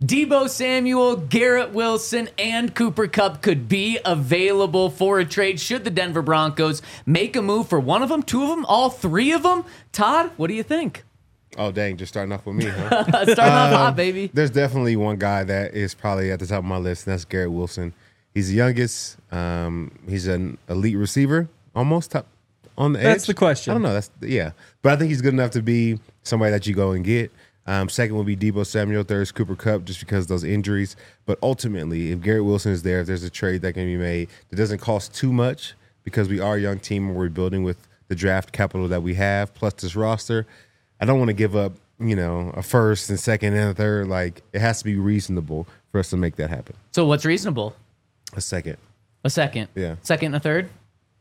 Deebo Samuel, Garrett Wilson, and Cooper Kupp could be available for a trade should the Denver Broncos make a move for one of them, two of them, all three of them. Todd, what do you think? Oh, dang, just starting off with me, huh? Starting off hot, baby. There's definitely one guy that is probably at the top of my list, and that's Garrett Wilson. He's the youngest. He's an elite receiver, almost top on the edge. That's the question. I don't know. But I think he's good enough to be somebody that you go and get. Second would be Deebo Samuel. Third is Cooper Kupp, just because of those injuries. But ultimately, if Garrett Wilson is there, if there's a trade that can be made that doesn't cost too much, because we are a young team and we're building with the draft capital that we have, plus this roster, I don't want to give up, a first and second and a third. Like, it has to be reasonable for us to make that happen. So what's reasonable? A second. A second. Yeah. Second and a third?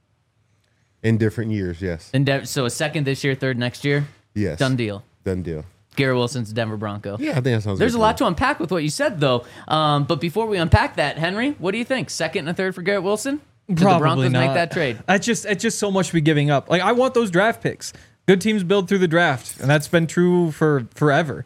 In different years, yes. So a second this year, third next year? Yes. Done deal. Done deal. Garrett Wilson's a Denver Bronco. Yeah, I think that sounds There's good a lot to unpack with what you said, though. But before we unpack that, Henry, what do you think? Second and a third for Garrett Wilson? Did Probably the Broncos not. make that trade? It's just so much to be giving up. Like, I want those draft picks. Good teams build through the draft, and that's been true for forever.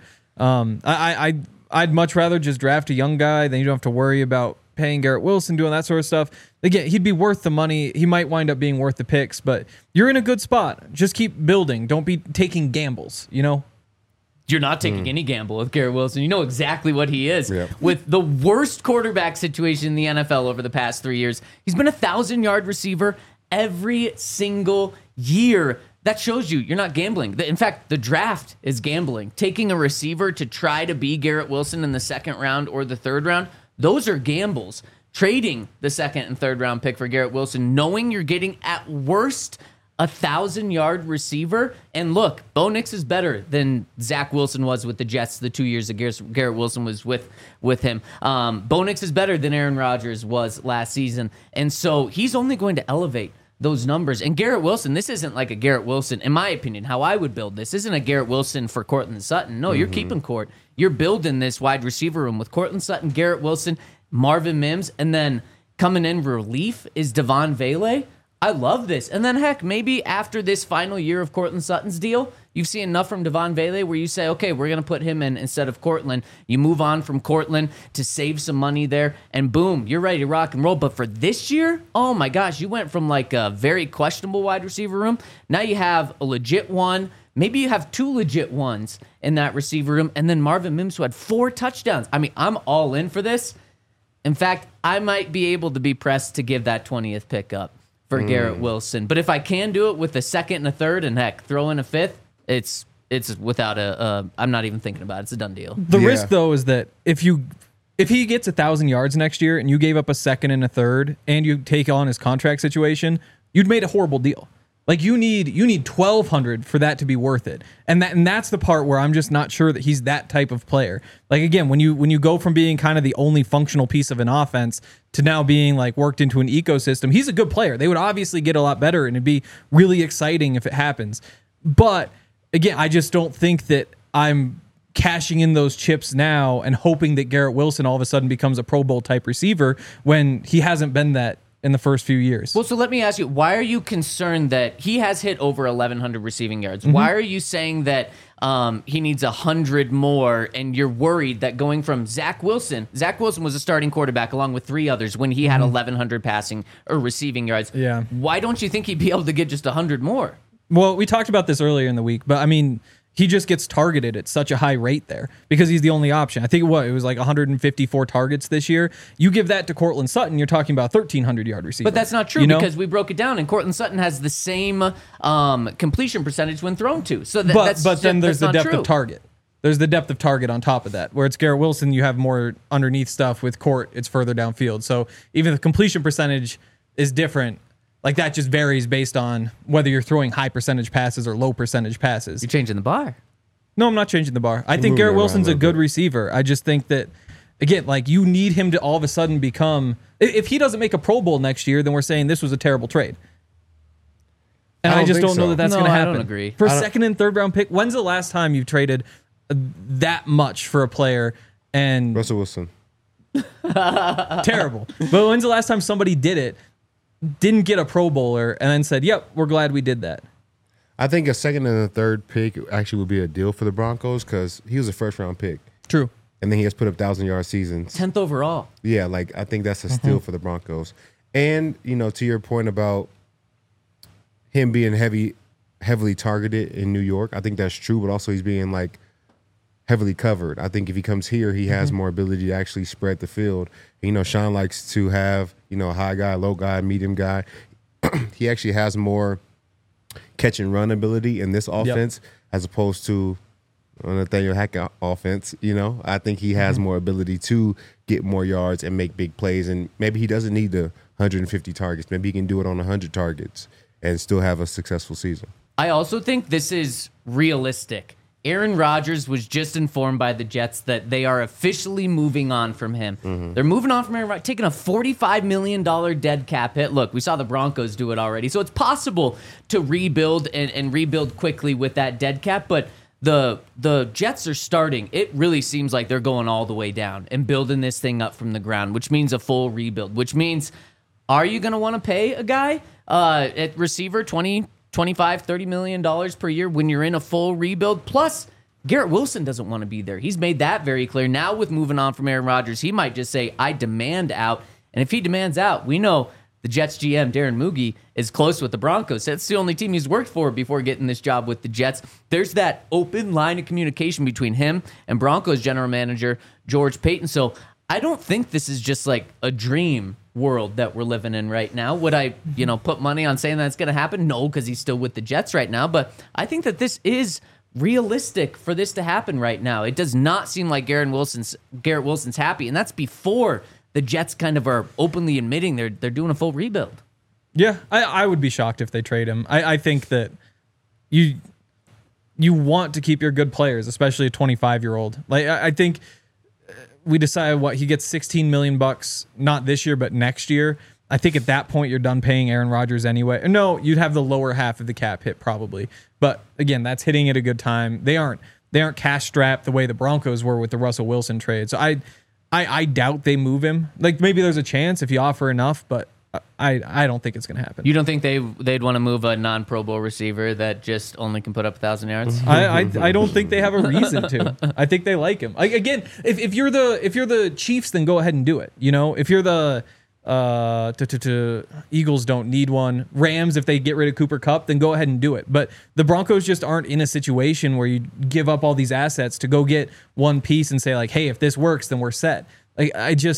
I'd much rather just draft a young guy than you don't have to worry about paying Garrett Wilson, doing that sort of stuff. Again, he'd be worth the money. He might wind up being worth the picks, but you're in a good spot. Just keep building. Don't be taking gambles, You're not taking any gamble with Garrett Wilson. You know exactly what he is. Yep. With the worst quarterback situation in the NFL over the past 3 years, he's been a 1,000-yard receiver every single year. That shows you're not gambling. In fact, the draft is gambling. Taking a receiver to try to be Garrett Wilson in the second round or the third round, those are gambles. Trading the second and third round pick for Garrett Wilson, knowing you're getting at worst a 1,000-yard receiver. And look, Bo Nix is better than Zach Wilson was with the Jets the 2 years that Garrett Wilson was with him. Bo Nix is better than Aaron Rodgers was last season. And so he's only going to elevate those numbers. And Garrett Wilson, this isn't like a Garrett Wilson, in my opinion, how I would build this, isn't a Garrett Wilson for Courtland Sutton. No, you're keeping Court. You're building this wide receiver room with Courtland Sutton, Garrett Wilson, Marvin Mims, and then coming in relief is Devon Vele. I love this. And then, heck, maybe after this final year of Courtland Sutton's deal, you've seen enough from Devon Vele where you say, okay, we're going to put him in instead of Courtland. You move on from Courtland to save some money there, and boom, you're ready to rock and roll. But for this year, oh my gosh, you went from like a very questionable wide receiver room. Now you have a legit one. Maybe you have two legit ones in that receiver room, and then Marvin Mims, who had 4 touchdowns. I mean, I'm all in for this. In fact, I might be able to be pressed to give that 20th pick up for Garrett Wilson. But if I can do it with a second and a third, and heck, throw in a fifth, it's without I'm not even thinking about it. It's a done deal. The risk, though, is that if he gets 1,000 yards next year and you gave up a second and a third and you take on his contract situation, you'd made a horrible deal. Like, you need 1,200 for that to be worth it. And that's the part where I'm just not sure that he's that type of player. Like, again, when you go from being kind of the only functional piece of an offense to now being like worked into an ecosystem, he's a good player. They would obviously get a lot better, and it'd be really exciting if it happens. But again, I just don't think that I'm cashing in those chips now and hoping that Garrett Wilson all of a sudden becomes a Pro Bowl type receiver when he hasn't been that in the first few years. Well, so let me ask you, why are you concerned that he has hit over 1,100 receiving yards? Why are you saying that he needs 100 more, and you're worried that going from Zach Wilson was a starting quarterback along with 3 others when he had 1,100 passing or receiving yards. Yeah. Why don't you think he'd be able to get just 100 more? Well, we talked about this earlier in the week, but I mean, he just gets targeted at such a high rate there because he's the only option. I think it was like 154 targets this year. You give that to Courtland Sutton, you're talking about 1,300-yard receiver. But that's not true because we broke it down, and Courtland Sutton has the same completion percentage when thrown to. So but then there's the depth of target. There's the depth of target on top of that. Where it's Garrett Wilson, you have more underneath stuff. With Court, it's further downfield. So even the completion percentage is different. Like, that just varies based on whether you're throwing high percentage passes or low percentage passes. You're changing the bar. No, I'm not changing the bar. I think Garrett Wilson's a good receiver. I just think that, again, like, you need him to all of a sudden become... If he doesn't make a Pro Bowl next year, then we're saying this was a terrible trade. And I just don't know that that's going to happen. I don't agree. For a second and third round pick, when's the last time you've traded that much for a player? And Russell Wilson. Terrible. But when's the last time somebody did it, didn't get a Pro Bowler, and then said, yep, we're glad we did that? I think a second and a third pick actually would be a deal for the Broncos because he was a first-round pick. True. and then he has put up 1,000-yard seasons. 10th overall. Yeah, like I think that's a steal for the Broncos. And to your point about him being heavily targeted in New York, I think that's true. But also he's being like heavily covered. I think if he comes here, he has more ability to actually spread the field. Sean likes to have a high guy, low guy, medium guy. He actually has more catch and run ability in this offense as opposed to Nathaniel Hackett offense. I think he has more ability to get more yards and make big plays. And maybe he doesn't need the 150 targets. Maybe he can do it on 100 targets and still have a successful season. I also think this is realistic. Aaron Rodgers was just informed by the Jets that they are officially moving on from him. They're moving on from Aaron Rodgers, taking a $45 million dead cap hit. Look, we saw the Broncos do it already. So it's possible to rebuild and rebuild quickly with that dead cap. But the Jets are starting. It really seems like they're going all the way down and building this thing up from the ground, which means a full rebuild, which means, are you going to want to pay a guy at receiver $20, $25, $30 million per year when you're in a full rebuild? Plus, Garrett Wilson doesn't want to be there. He's made that very clear. Now with moving on from Aaron Rodgers, he might just say, I demand out. And if he demands out, we know the Jets GM, Darren Muge, is close with the Broncos. That's the only team he's worked for before getting this job with the Jets. There's that open line of communication between him and Broncos general manager George Paton. So I don't think this is just like a dream world that we're living in right now. Would I, put money on saying that's going to happen? No, because he's still with the Jets right now. But I think that this is realistic for this to happen right now. It does not seem like Garrett Wilson's happy, and that's before the Jets kind of are openly admitting they're doing a full rebuild. Yeah, I would be shocked if they trade him. I think that you want to keep your good players, especially a 25-year-old. Like I think we decided he gets $16 million, not this year, but next year. I think at that point you're done paying Aaron Rodgers anyway. No, you'd have the lower half of the cap hit probably. But again, that's hitting at a good time. They aren't cash strapped the way the Broncos were with the Russell Wilson trade. So I doubt they move him. Like maybe there's a chance if you offer enough, but I don't think it's going to happen. You don't think they'd want to move a non-Pro Bowl receiver that just only can put up 1,000 yards? I don't think they have a reason to. I think they like him. Again, if you're the Chiefs, then go ahead and do it. If you're the Eagles, don't need one. Rams, if they get rid of Cooper Kupp, then go ahead and do it. But the Broncos just aren't in a situation where you give up all these assets to go get one piece and say like, hey, if this works, then we're set. Like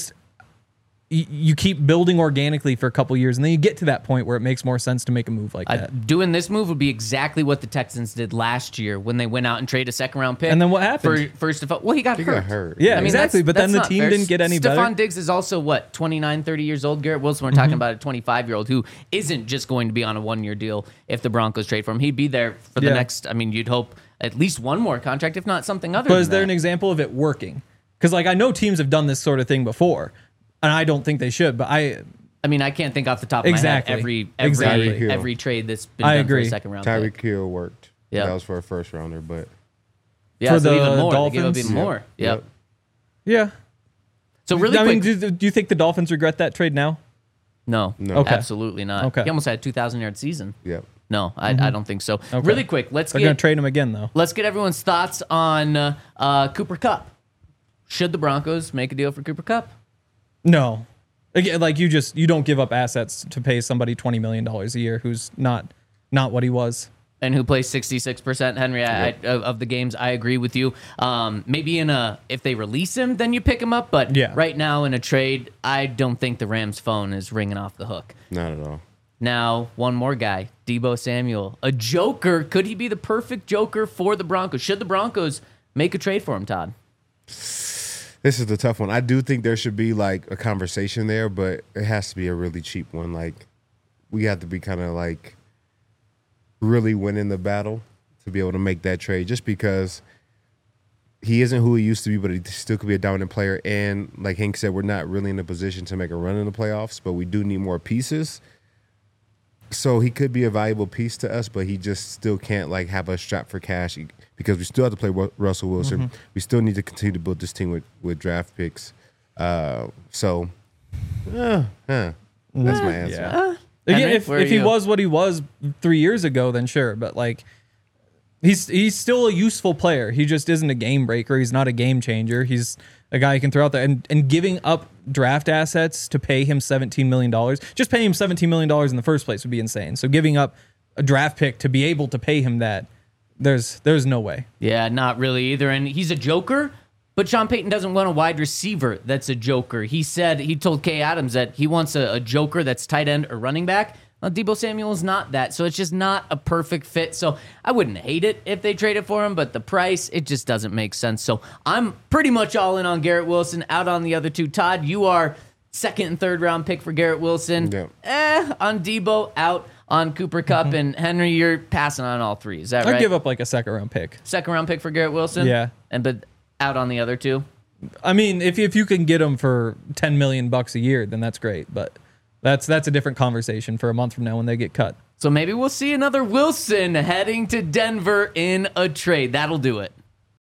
you keep building organically for a couple years, and then you get to that point where it makes more sense to make a move like that. Doing this move would be exactly what the Texans did last year when they went out and traded a second-round pick. And then what happened? He got hurt. Yeah, exactly. But then the team didn't get any better. Stephon Diggs is also, 29, 30 years old? Garrett Wilson, we're talking about a 25-year-old who isn't just going to be on a one-year deal if the Broncos trade for him. He'd be there for the next, you'd hope, at least one more contract, if not something other than that. But is there an example of it working? Because I know teams have done this sort of thing before. And I don't think they should, but I can't think off the top of my head every trade that's been done for a second round. Tyreek Hill worked. Yeah, that was for a first rounder, but for the even more, Dolphins, they gave up even more. Yep. Yeah. So really quick, do you think the Dolphins regret that trade now? No. Okay. Absolutely not. Okay. He almost had a 2,000-yard season. Yep. No, I don't think so. Okay. Really quick, they're going to trade him again though. Let's get everyone's thoughts on Cooper Kupp. Should the Broncos make a deal for Cooper Kupp? No. Again, you don't give up assets to pay somebody $20 million a year who's not what he was. And who plays 66%, Henry, of the games. I agree with you. Maybe if they release him, then you pick him up. But right now in a trade, I don't think the Rams' phone is ringing off the hook. Not at all. Now, one more guy, Deebo Samuel. A joker. Could he be the perfect joker for the Broncos? Should the Broncos make a trade for him, Todd? This is the tough one. I do think there should be like a conversation there, but it has to be a really cheap one. Like we have to be kind of like really winning the battle to be able to make that trade, just because he isn't who he used to be, but he still could be a dominant player. And like Hank said, we're not really in a position to make a run in the playoffs, but we do need more pieces. So he could be a valuable piece to us, but he just still can't like have us strapped for cash because we still have to play Russell Wilson. We still need to continue to build this team with draft picks. That's my answer. Yeah. Again, if he was what he was 3 years ago, then sure. But He's still a useful player. He just isn't a game breaker. He's not a game changer. He's a guy you can throw out there. And giving up draft assets to pay him $17 million, just paying him $17 million in the first place would be insane. So giving up a draft pick to be able to pay him that, there's no way. Yeah, not really either. And he's a joker, but Sean Payton doesn't want a wide receiver that's a joker. He told Kay Adams that he wants a joker that's tight end or running back. Well, Deebo Samuel is not that, so it's just not a perfect fit. So I wouldn't hate it if they traded for him, but the price, it just doesn't make sense. So I'm pretty much all in on Garrett Wilson, out on the other two. Todd, you are second and third round pick for Garrett Wilson. Yeah. On Deebo, out on Cooper Kupp, and Henry, you're passing on all three. Is that right? I'd give up like a second round pick. Second round pick for Garrett Wilson? Yeah. But out on the other two? I mean, if you can get him for $10 million a year, then that's great. But that's a different conversation for a month from now when they get cut. So maybe we'll see another Wilson heading to Denver in a trade. That'll do it.